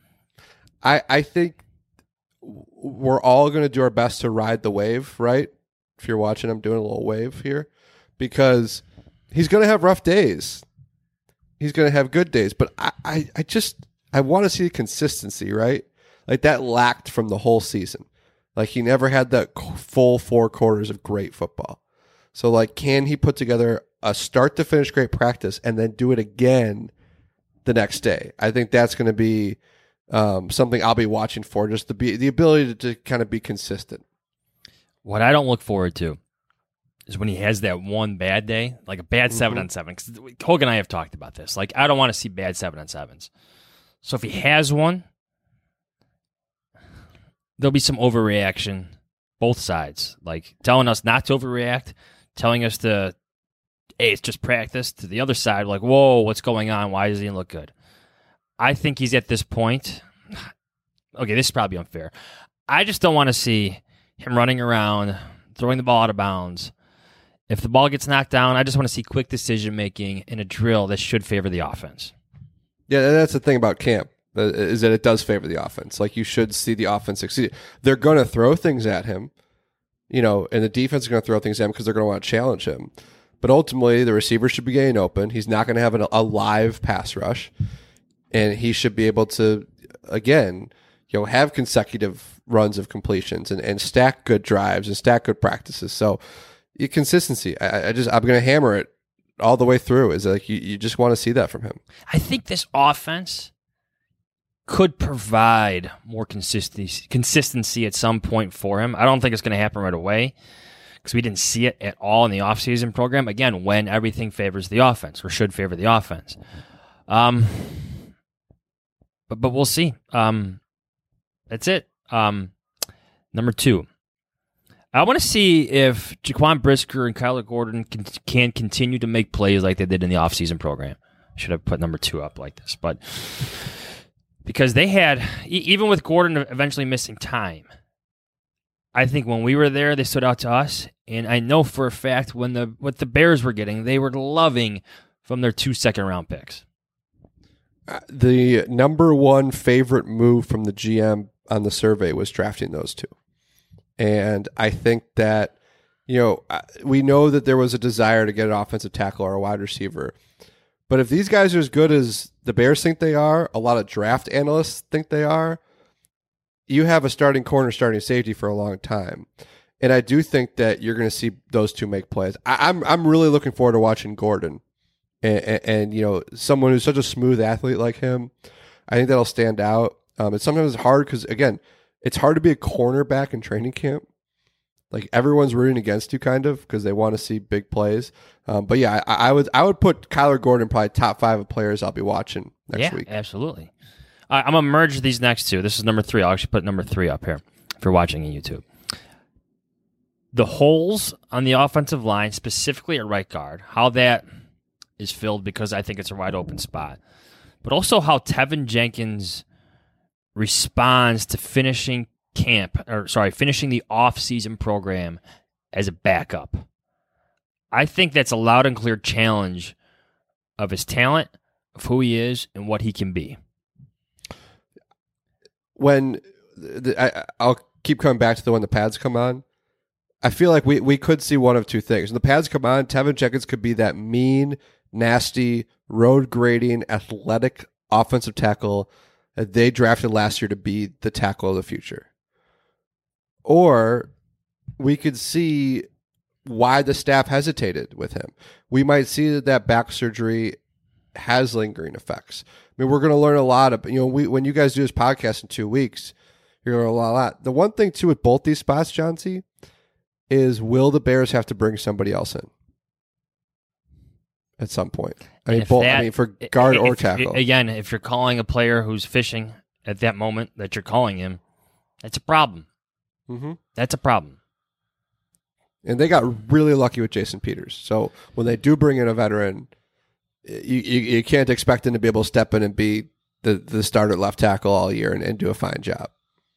D: I think we're all going to do our best to ride the wave, right? If you're watching, I'm doing a little wave here because he's going to have rough days. He's going to have good days, but I want to see consistency, right? Like that lacked from the whole season. Like he never had that full 4 quarters of great football. So like, can he put together a start to finish great practice and then do it again the next day? I think that's going to be something I'll be watching for, just the ability to kind of be consistent.
J: What I don't look forward to is when he has that one bad day, like a bad 7-on-7. Because Hogan and I have talked about this. Like, I don't want to see bad 7-on-7s. So if he has one, there'll be some overreaction, both sides. Like telling us not to overreact, telling us to, hey, it's just practice. To the other side, like, whoa, what's going on? Why does he look good? I think he's at this point. Okay, this is probably unfair. I just don't want to see him running around, throwing the ball out of bounds. If the ball gets knocked down, I just want to see quick decision-making in a drill that should favor the offense.
D: Yeah, that's the thing about camp, is that it does favor the offense. Like, you should see the offense succeed. They're going to throw things at him, and the defense is going to throw things at him because they're going to want to challenge him. But ultimately, the receiver should be getting open. He's not going to have a live pass rush. And he should be able to, again, have consecutive runs of completions and stack good drives and stack good practices. So consistency. I'm going to hammer it all the way through. Is like you just want to see that from him.
J: I think this offense could provide more consistency at some point for him. I don't think it's going to happen right away because we didn't see it at all in the offseason program. Again, when everything favors the offense or should favor the offense. But we'll see. That's it. Number 2. I want to see if Jaquan Brisker and Kyler Gordon can continue to make plays like they did in the offseason program. I should have put number 2 up like this. But because they had, even with Gordon eventually missing time, I think when we were there, they stood out to us. And I know for a fact what the Bears were getting, they were loving from their 2 second-round picks.
D: The number 1 favorite move from the GM on the survey was drafting those 2. And I think that, we know that there was a desire to get an offensive tackle or a wide receiver. But if these guys are as good as the Bears think they are, a lot of draft analysts think they are, you have a starting corner, starting safety for a long time. And I do think that you're going to see those 2 make plays. I'm really looking forward to watching Gordon. And someone who's such a smooth athlete like him, I think that'll stand out. It's sometimes hard because, again, it's hard to be a cornerback in training camp. Like everyone's rooting against you, kind of, because they want to see big plays. But yeah, I would put Kyler Gordon probably top 5 of players I'll be watching next week.
J: Yeah, absolutely. I'm gonna merge these next 2. This is number 3. I'll actually put number 3 up here if you're watching on YouTube. The holes on the offensive line, specifically at right guard, how that is filled because I think it's a wide open spot, but also how Tevin Jenkins responds to finishing the off-season program as a backup. I think that's a loud and clear challenge of his talent, of who he is, and what he can be.
D: When I'll keep coming back to when the pads come on, I feel like we could see one of 2 things. When the pads come on, Tevin Jenkins could be that mean, nasty, road-grading, athletic offensive tackle that they drafted last year to be the tackle of the future. Or we could see why the staff hesitated with him. We might see that back surgery has lingering effects. I mean, we're going to learn a lot of, when you guys do this podcast in 2 weeks, you're going to learn a lot. The one thing, too, with both these spots, John C., is will the Bears have to bring somebody else in at some point? For guard or tackle.
J: Again, if you're calling a player who's fishing at that moment that you're calling him, that's a problem.
D: Mm-hmm.
J: That's a problem.
D: And they got really lucky with Jason Peters. So when they do bring in a veteran, you can't expect him to be able to step in and be the starter left tackle all year and do a fine job.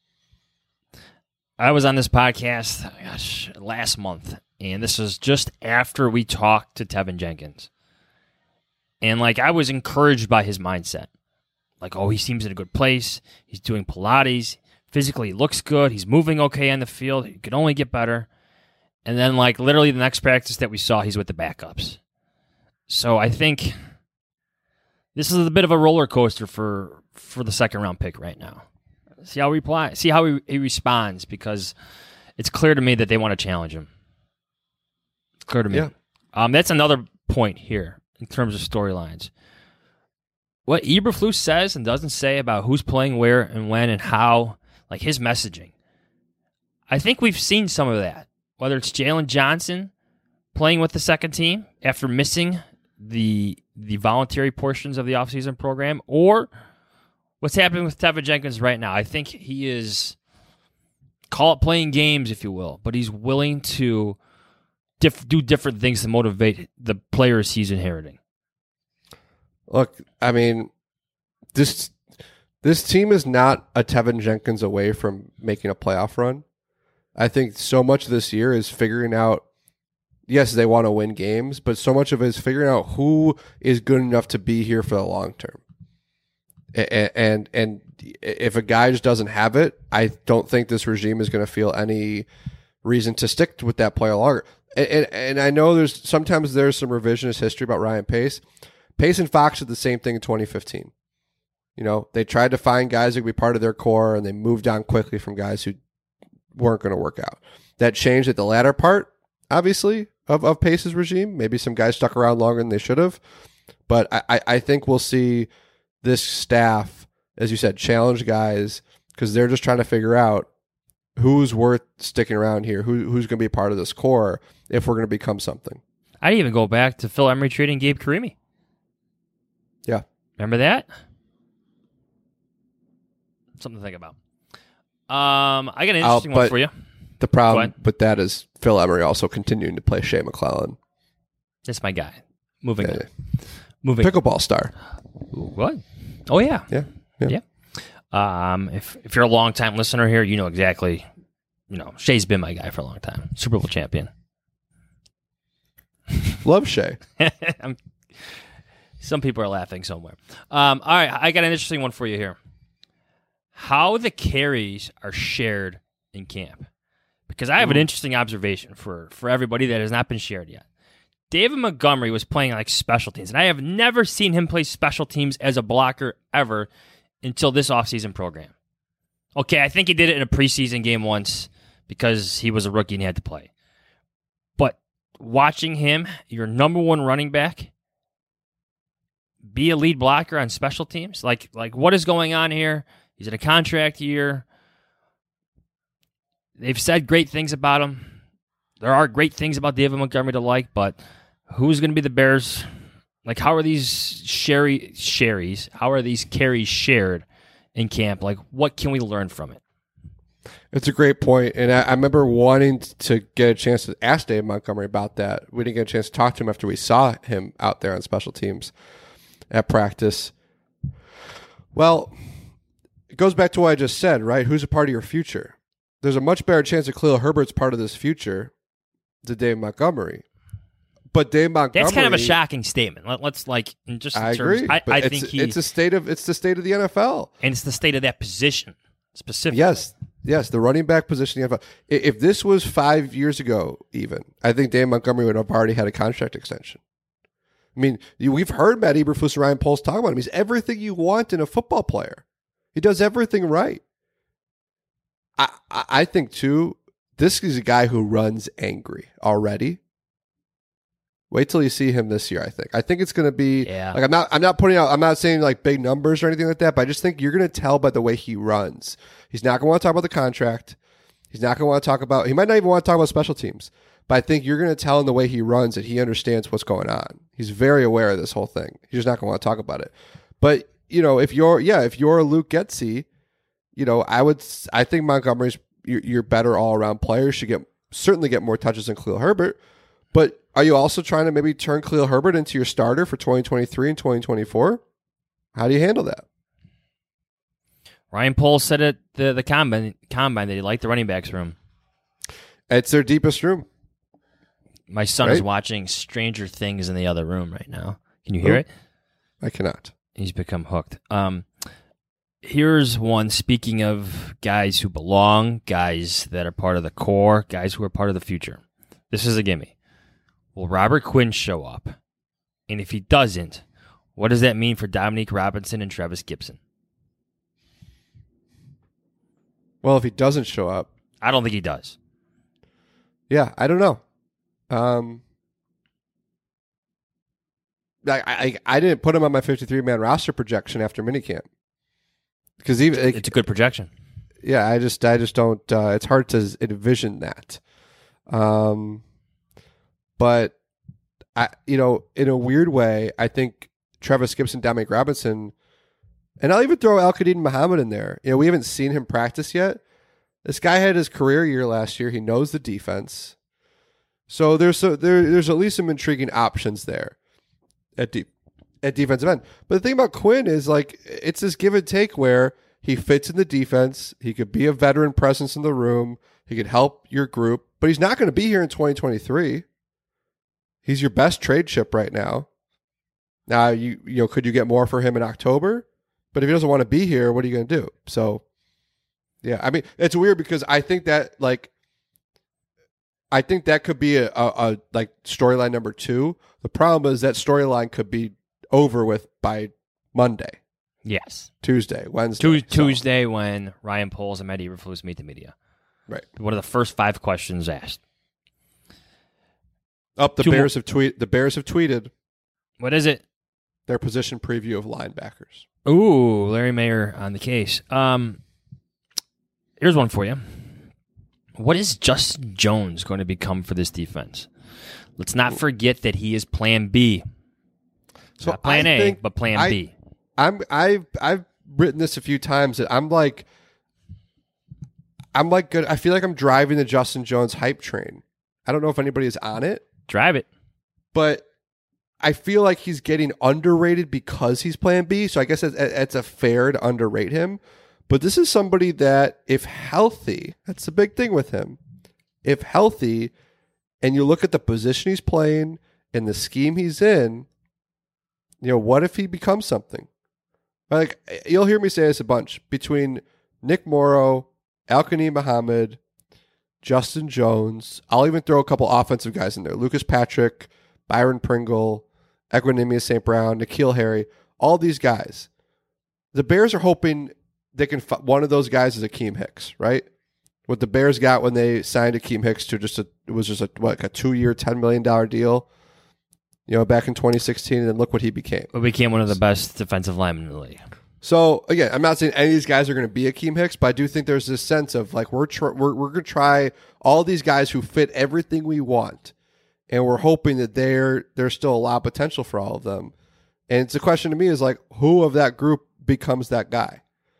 J: I was on this podcast last month, and this was just after we talked to Tevin Jenkins. And I was encouraged by his mindset. He seems in a good place. He's doing Pilates. Physically, he looks good. He's moving okay on the field. He could only get better. And then, literally the next practice that we saw, he's with the backups. So I think this is a bit of a roller coaster for the second-round pick right now. See how he responds, because it's clear to me that they want to challenge him. It's clear to me. Yeah. That's another point here in terms of storylines. What Eberflus says and doesn't say about who's playing where and when and how, his messaging. I think we've seen some of that, whether it's Jalen Johnson playing with the second team after missing the voluntary portions of the offseason program, or what's happening with Tevin Jenkins right now. I think he is, call it playing games, if you will, but he's willing to do different things to motivate the players he's inheriting.
D: Look, I mean, this team is not a Tevin Jenkins away from making a playoff run. I think so much of this year is figuring out, yes, they want to win games, but so much of it is figuring out who is good enough to be here for the long term. And if a guy just doesn't have it, I don't think this regime is going to feel any reason to stick with that player longer. And I know sometimes there's some revisionist history about Ryan Pace. Pace and Fox did the same thing in 2015. They tried to find guys that could be part of their core, and they moved on quickly from guys who weren't going to work out. That changed at the latter part, obviously, of Pace's regime. Maybe some guys stuck around longer than they should have. But I think we'll see this staff, as you said, challenge guys because they're just trying to figure out who's worth sticking around here, who's going to be part of this core if we're going to become something.
J: I'd even go back to Phil Emery trading Gabe Carimi.
D: Yeah.
J: Remember that? Something to think about. I got an interesting one for you.
D: The problem with that is Phil Emery also continuing to play Shea McClellan.
J: That's my guy. Moving.
D: Pickleball star.
J: What? Oh, yeah.
D: Yeah.
J: If you're a long-time listener here, you know exactly. Shea's been my guy for a long time. Super Bowl champion.
D: Love Shea.
J: Some people are laughing somewhere. All right, I got an interesting one for you here. How the carries are shared in camp. Because I have an interesting observation for everybody that has not been shared yet. David Montgomery was playing like special teams, and I have never seen him play special teams as a blocker ever until this offseason program. Okay, I think he did it in a preseason game once because he was a rookie and he had to play. But watching him, your number one running back, be a lead blocker on special teams, like what is going on here? He's in a contract year. They've said great things about him. There are great things about David Montgomery to like, but who's going to be the Bears? Like, how are these how are these carries shared in camp? Like, what can we learn from it?
D: It's a great point, and I remember wanting to get a chance to ask Dave Montgomery about that. We didn't get a chance to talk to him after we saw him out there on special teams at practice. Well, it goes back to what I just said, right? Who's a part of your future? There's a much better chance that Khalil Herbert's part of this future than Dave Montgomery. But Dave Montgomery,
J: that's kind of a shocking statement. Let's like in just.
D: I agree.
J: I think
D: it's the state of the NFL,
J: and it's the state of that position specifically.
D: Yes, the running back position in the NFL. If this was 5 years ago, even I think Dave Montgomery would have already had a contract extension. I mean, we've heard Matt Eberflus and Ryan Poles talk about him. He's everything you want in a football player. He does everything right. I think too. This is a guy who runs angry already. Wait till you see him this year. I think it's going to be like I'm not saying like big numbers or anything like that, but I just think you're going to tell by the way he runs. He's not going to want to talk about the contract. He's not going to want to talk about. He might not even want to talk about special teams. But I think you're going to tell in the way he runs that he understands what's going on. He's very aware of this whole thing. He's just not going to want to talk about it. But if you're Luke Getsy, I think Montgomery's your better all around player. Should certainly get more touches than Khalil Herbert. But are you also trying to maybe turn Khalil Herbert into your starter for 2023 and 2024? How do you handle that?
J: Ryan Poles said at the combine that he liked the running backs room.
D: It's their deepest room.
J: My son is watching Stranger Things in the other room right now. Can you hear it?
D: I cannot.
J: He's become hooked. Here's one, speaking of guys who belong, guys that are part of the core, guys who are part of the future. This is a gimme. Will Robert Quinn show up? And if he doesn't, what does that mean for Dominique Robinson and Travis Gibson?
D: Well, if he doesn't show up...
J: I don't think he does.
D: Yeah, I don't know. I didn't put him on my 53-man roster projection after minicamp. Because
J: it's a good projection.
D: Yeah, I just don't. It's hard to envision that. But in a weird way, I think Travis Gibson, Dominic Robinson, and I'll even throw Al-Qadim Muhammad in there. We haven't seen him practice yet. This guy had his career year last year. He knows the defense, so there's at least some intriguing options there at defensive end. But the thing about Quinn is like it's this give and take where he fits in the defense. He could be a veteran presence in the room. He could help your group, but he's not going to be here in 2023. He's your best trade chip right now. Now, could you get more for him in October? But if he doesn't want to be here, what are you going to do? So, yeah, I mean, it's weird because I think that could be a storyline number 2. The problem is that storyline could be over with by Monday.
J: Yes.
D: Tuesday, Wednesday.
J: Tuesday when Ryan Poles and Matt Eberflus meet the media.
D: Right.
J: One of the first 5 questions asked.
D: Up, the Bears have tweeted.
J: What is it?
D: Their position preview of linebackers.
J: Ooh, Larry Mayer on the case. Here's one for you. What is Justin Jones going to become for this defense? Let's not forget that he is Plan B. So not Plan A, but Plan B.
D: I've written this a few times that I'm like good. I feel like I'm driving the Justin Jones hype train. I don't know if anybody is on it.
J: Drive it.
D: But I feel like he's getting underrated because he's Plan B. So I guess it's a fair to underrate him. But this is somebody that, if healthy, that's the big thing with him. If healthy, and you look at the position he's playing and the scheme he's in, what if he becomes something? Like, you'll hear me say this a bunch. Between Nick Morrow, Al-Qanim Muhammad, Justin Jones, I'll even throw a couple offensive guys in there. Lucas Patrick, Byron Pringle, Equanimeous St. Brown, N'Keal Harry, all these guys. The Bears are hoping they can one of those guys is Akeem Hicks, right? What the Bears got when they signed Akeem Hicks to it was a 2-year, $10 million deal, back in 2016, and then look what he became.
J: He became one of the best defensive linemen in the league.
D: So again, I'm not saying any of these guys are going to be Akeem Hicks, but I do think there's this sense of like we're going to try all these guys who fit everything we want, and we're hoping that there's still a lot of potential for all of them. And it's a question to me is like, who of that group becomes that guy?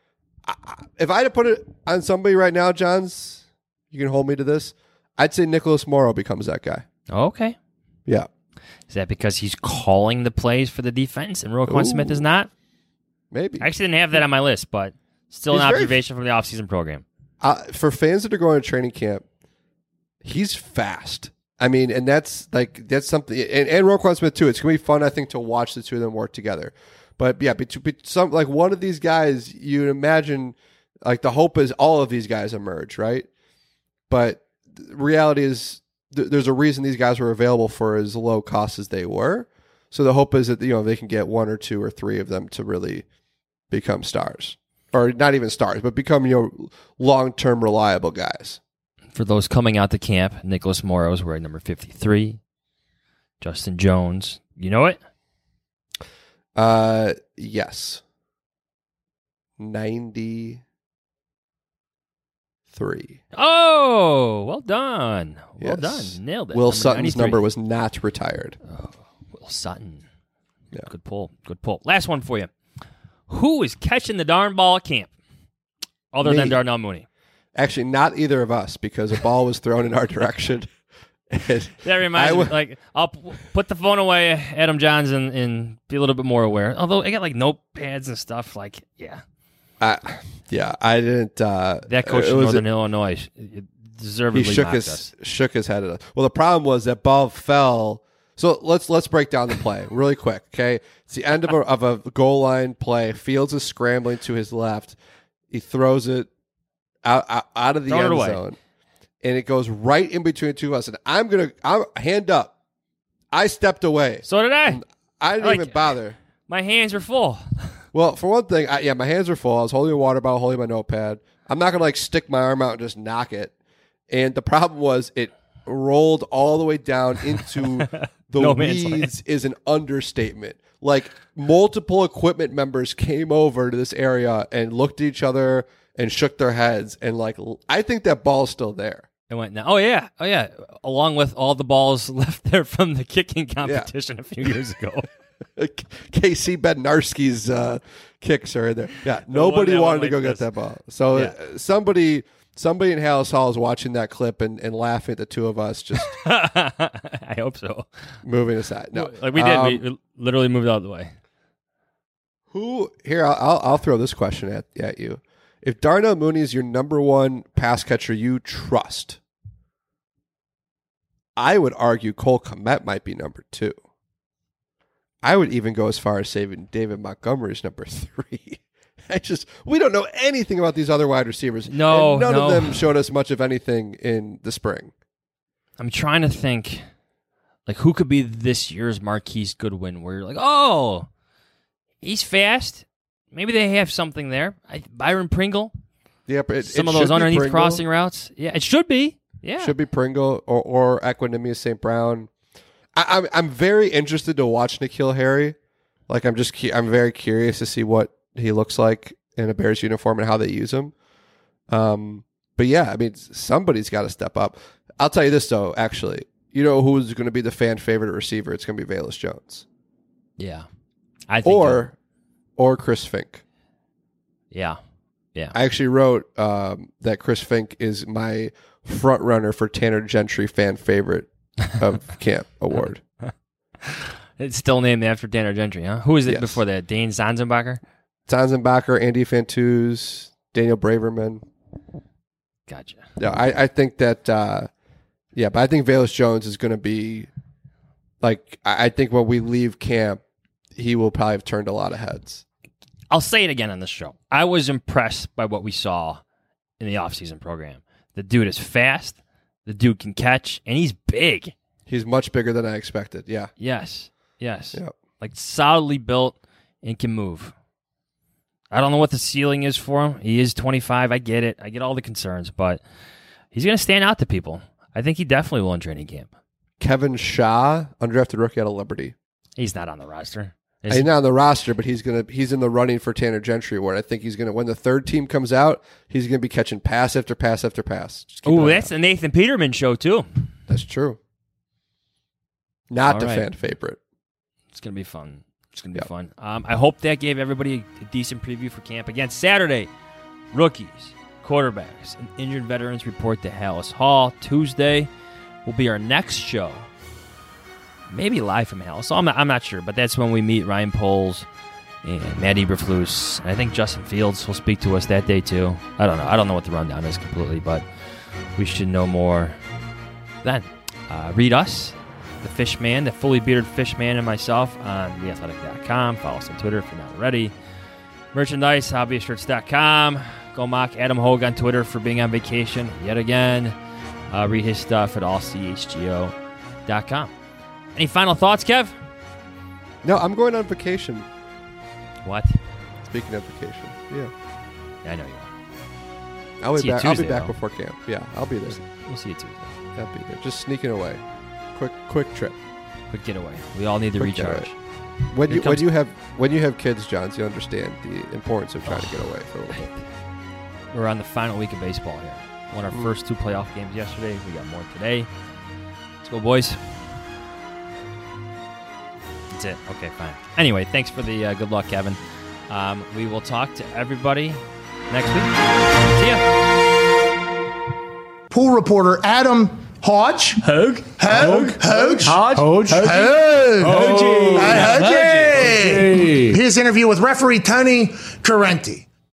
D: If I had to put it on somebody right now, Johns, you can hold me to this. I'd say Nicholas Morrow becomes that guy.
J: Okay.
D: Yeah.
J: Is that because he's calling the plays for the defense and Roquan Smith is not?
D: Maybe.
J: I actually didn't have that on my list, but still an observation from the offseason program.
D: For fans that are going to training camp, he's fast. I mean, and that's something. And Roquan Smith, too. It's going to be fun, I think, to watch the two of them work together. But yeah, some like one of these guys, you'd imagine, like the hope is all of these guys emerge, right? But the reality is there's a reason these guys were available for as low cost as they were. So the hope is that they can get one or two or three of them to really become stars, or not even stars, but become long-term reliable guys.
J: For those coming out to camp, Nicholas Morrow is wearing number 53. Justin Jones, you know it?
D: Yes. 93.
J: Oh, well done. Well
D: yes.
J: done. Nailed it.
D: Will Sutton's number was not retired.
J: Oh, Will Sutton.
D: Yeah.
J: Good pull. Last one for you. Who is catching the darn ball at camp other than Darnell Mooney?
D: Actually, not either of us, because a ball was thrown in our direction.
J: That reminds me, like, I'll put the phone away, Adam Johns, and be a little bit more aware. Although I got like notepads and stuff, like, yeah.
D: I didn't.
J: That coach in Northern Illinois deservedly
D: shook his head at us. Well, the problem was that ball fell. So let's break down the play really quick, okay? It's the end of a goal line play. Fields is scrambling to his left. He throws it out of the end zone. And it goes right in between the two of us. And I'm hand up. I stepped away.
J: So did I.
D: I didn't even bother.
J: My hands were full.
D: Well, for one thing, my hands were full. I was holding a water bottle, holding my notepad. I'm not going to stick my arm out and just knock it. And the problem was it rolled all the way down into the weeds is an understatement. Like, multiple equipment members came over to this area and looked at each other and shook their heads. And, I think that ball's still there.
J: It went now. Oh yeah. Along with all the balls left there from the kicking competition a few years ago.
D: KC Bednarski's kicks are in there. Yeah, nobody wanted to go get that ball. So somebody in Hallis Hall is watching that clip and laughing at the two of us. Just
J: I hope so.
D: Moving aside, no,
J: like we did. We literally moved out of the way.
D: Who here? I'll throw this question at you. If Darnell Mooney is your number one pass catcher you trust, I would argue Cole Kmet might be number 2. I would even go as far as saying David Montgomery is number 3. We don't know anything about these other wide receivers.
J: No,
D: none of them showed us much of anything in the spring.
J: I'm trying to think, like, who could be this year's Marquise Goodwin, where you're like, oh, he's fast. Maybe they have something there. Byron Pringle.
D: Yeah, but
J: some of those underneath crossing routes. Yeah, it should be. Yeah,
D: should be Pringle or Equanimeous St. Brown. I'm very interested to watch N'Keal Harry. Like I'm very curious to see what he looks like in a Bears uniform and how they use him. But yeah, I mean, somebody's got to step up. I'll tell you this though, actually, you know who's going to be the fan favorite receiver? It's going to be Velus Jones.
J: Yeah, I think
D: or Chris Fink.
J: Yeah.
D: I actually wrote that Chris Fink is my front runner for Tanner Gentry fan favorite of camp award.
J: It's still named after Tanner Gentry, huh? Who is it before that? Dane Zanzenbacher?
D: Zanzenbacher, Andy Fantuz, Daniel Braverman.
J: Gotcha.
D: Yeah, I think that, but I think Velus Jones is going to be, like, I think when we leave camp, he will probably have turned a lot of heads.
J: I'll say it again on this show. I was impressed by what we saw in the offseason program. The dude is fast, the dude can catch, and he's big.
D: He's much bigger than I expected, yeah.
J: Yes.
D: Yep.
J: Like, solidly built and can move. I don't know what the ceiling is for him. He is 25. I get it. I get all the concerns, but he's going to stand out to people. I think he definitely will in training camp.
D: Kevin Shaw, undrafted rookie out of Liberty.
J: He's not on the roster.
D: He's not on the roster, but he's in the running for Tanner Gentry Award. I think he's going to, when the third team comes out, he's going to be catching pass after pass after pass.
J: Oh, that's the Nathan Peterman show, too.
D: That's true. Not
J: all
D: the
J: right.
D: fan favorite.
J: It's going to be fun. It's going to be fun. I hope that gave everybody a decent preview for camp. Again, Saturday, rookies, quarterbacks, and injured veterans report to Hallis Hall. Tuesday will be our next show. Maybe live from Hallis. So I'm not sure, but that's when we meet Ryan Poles and Matt Eberflus. And I think Justin Fields will speak to us that day too. I don't know. I don't know what the rundown is completely, but we should know more then. Read us, the Fishman, the fully bearded Fishman, and myself on theathletic.com. Follow us on Twitter if you're not already. Merchandise, hobbyshirts.com. Go mock Adam Hogue on Twitter for being on vacation yet again. Read his stuff at allchgo.com. Any final thoughts, Kev?
D: No, I'm going on vacation.
J: What?
D: Speaking of vacation, yeah.
J: I know you are.
D: I'll be back.
J: Tuesday,
D: I'll be back
J: though.
D: before camp. Yeah, I'll be there.
J: We'll see you Tuesday.
D: I'll be there. Just sneaking away. Quick trip.
J: Quick getaway. We all need to
D: Quick
J: recharge.
D: Getaway. When you have kids, Johns, you understand the importance of trying to get away for a little bit.
J: We're on the final week of baseball here. Won our first 2 playoff games yesterday. We got more today. Let's go, boys. That's it. Okay, fine. Anyway, thanks for the good luck, Kevin. We will talk to everybody next week. See ya.
B: Pool reporter Adam Hodge. Hogue. His interview with referee Tony Correnti.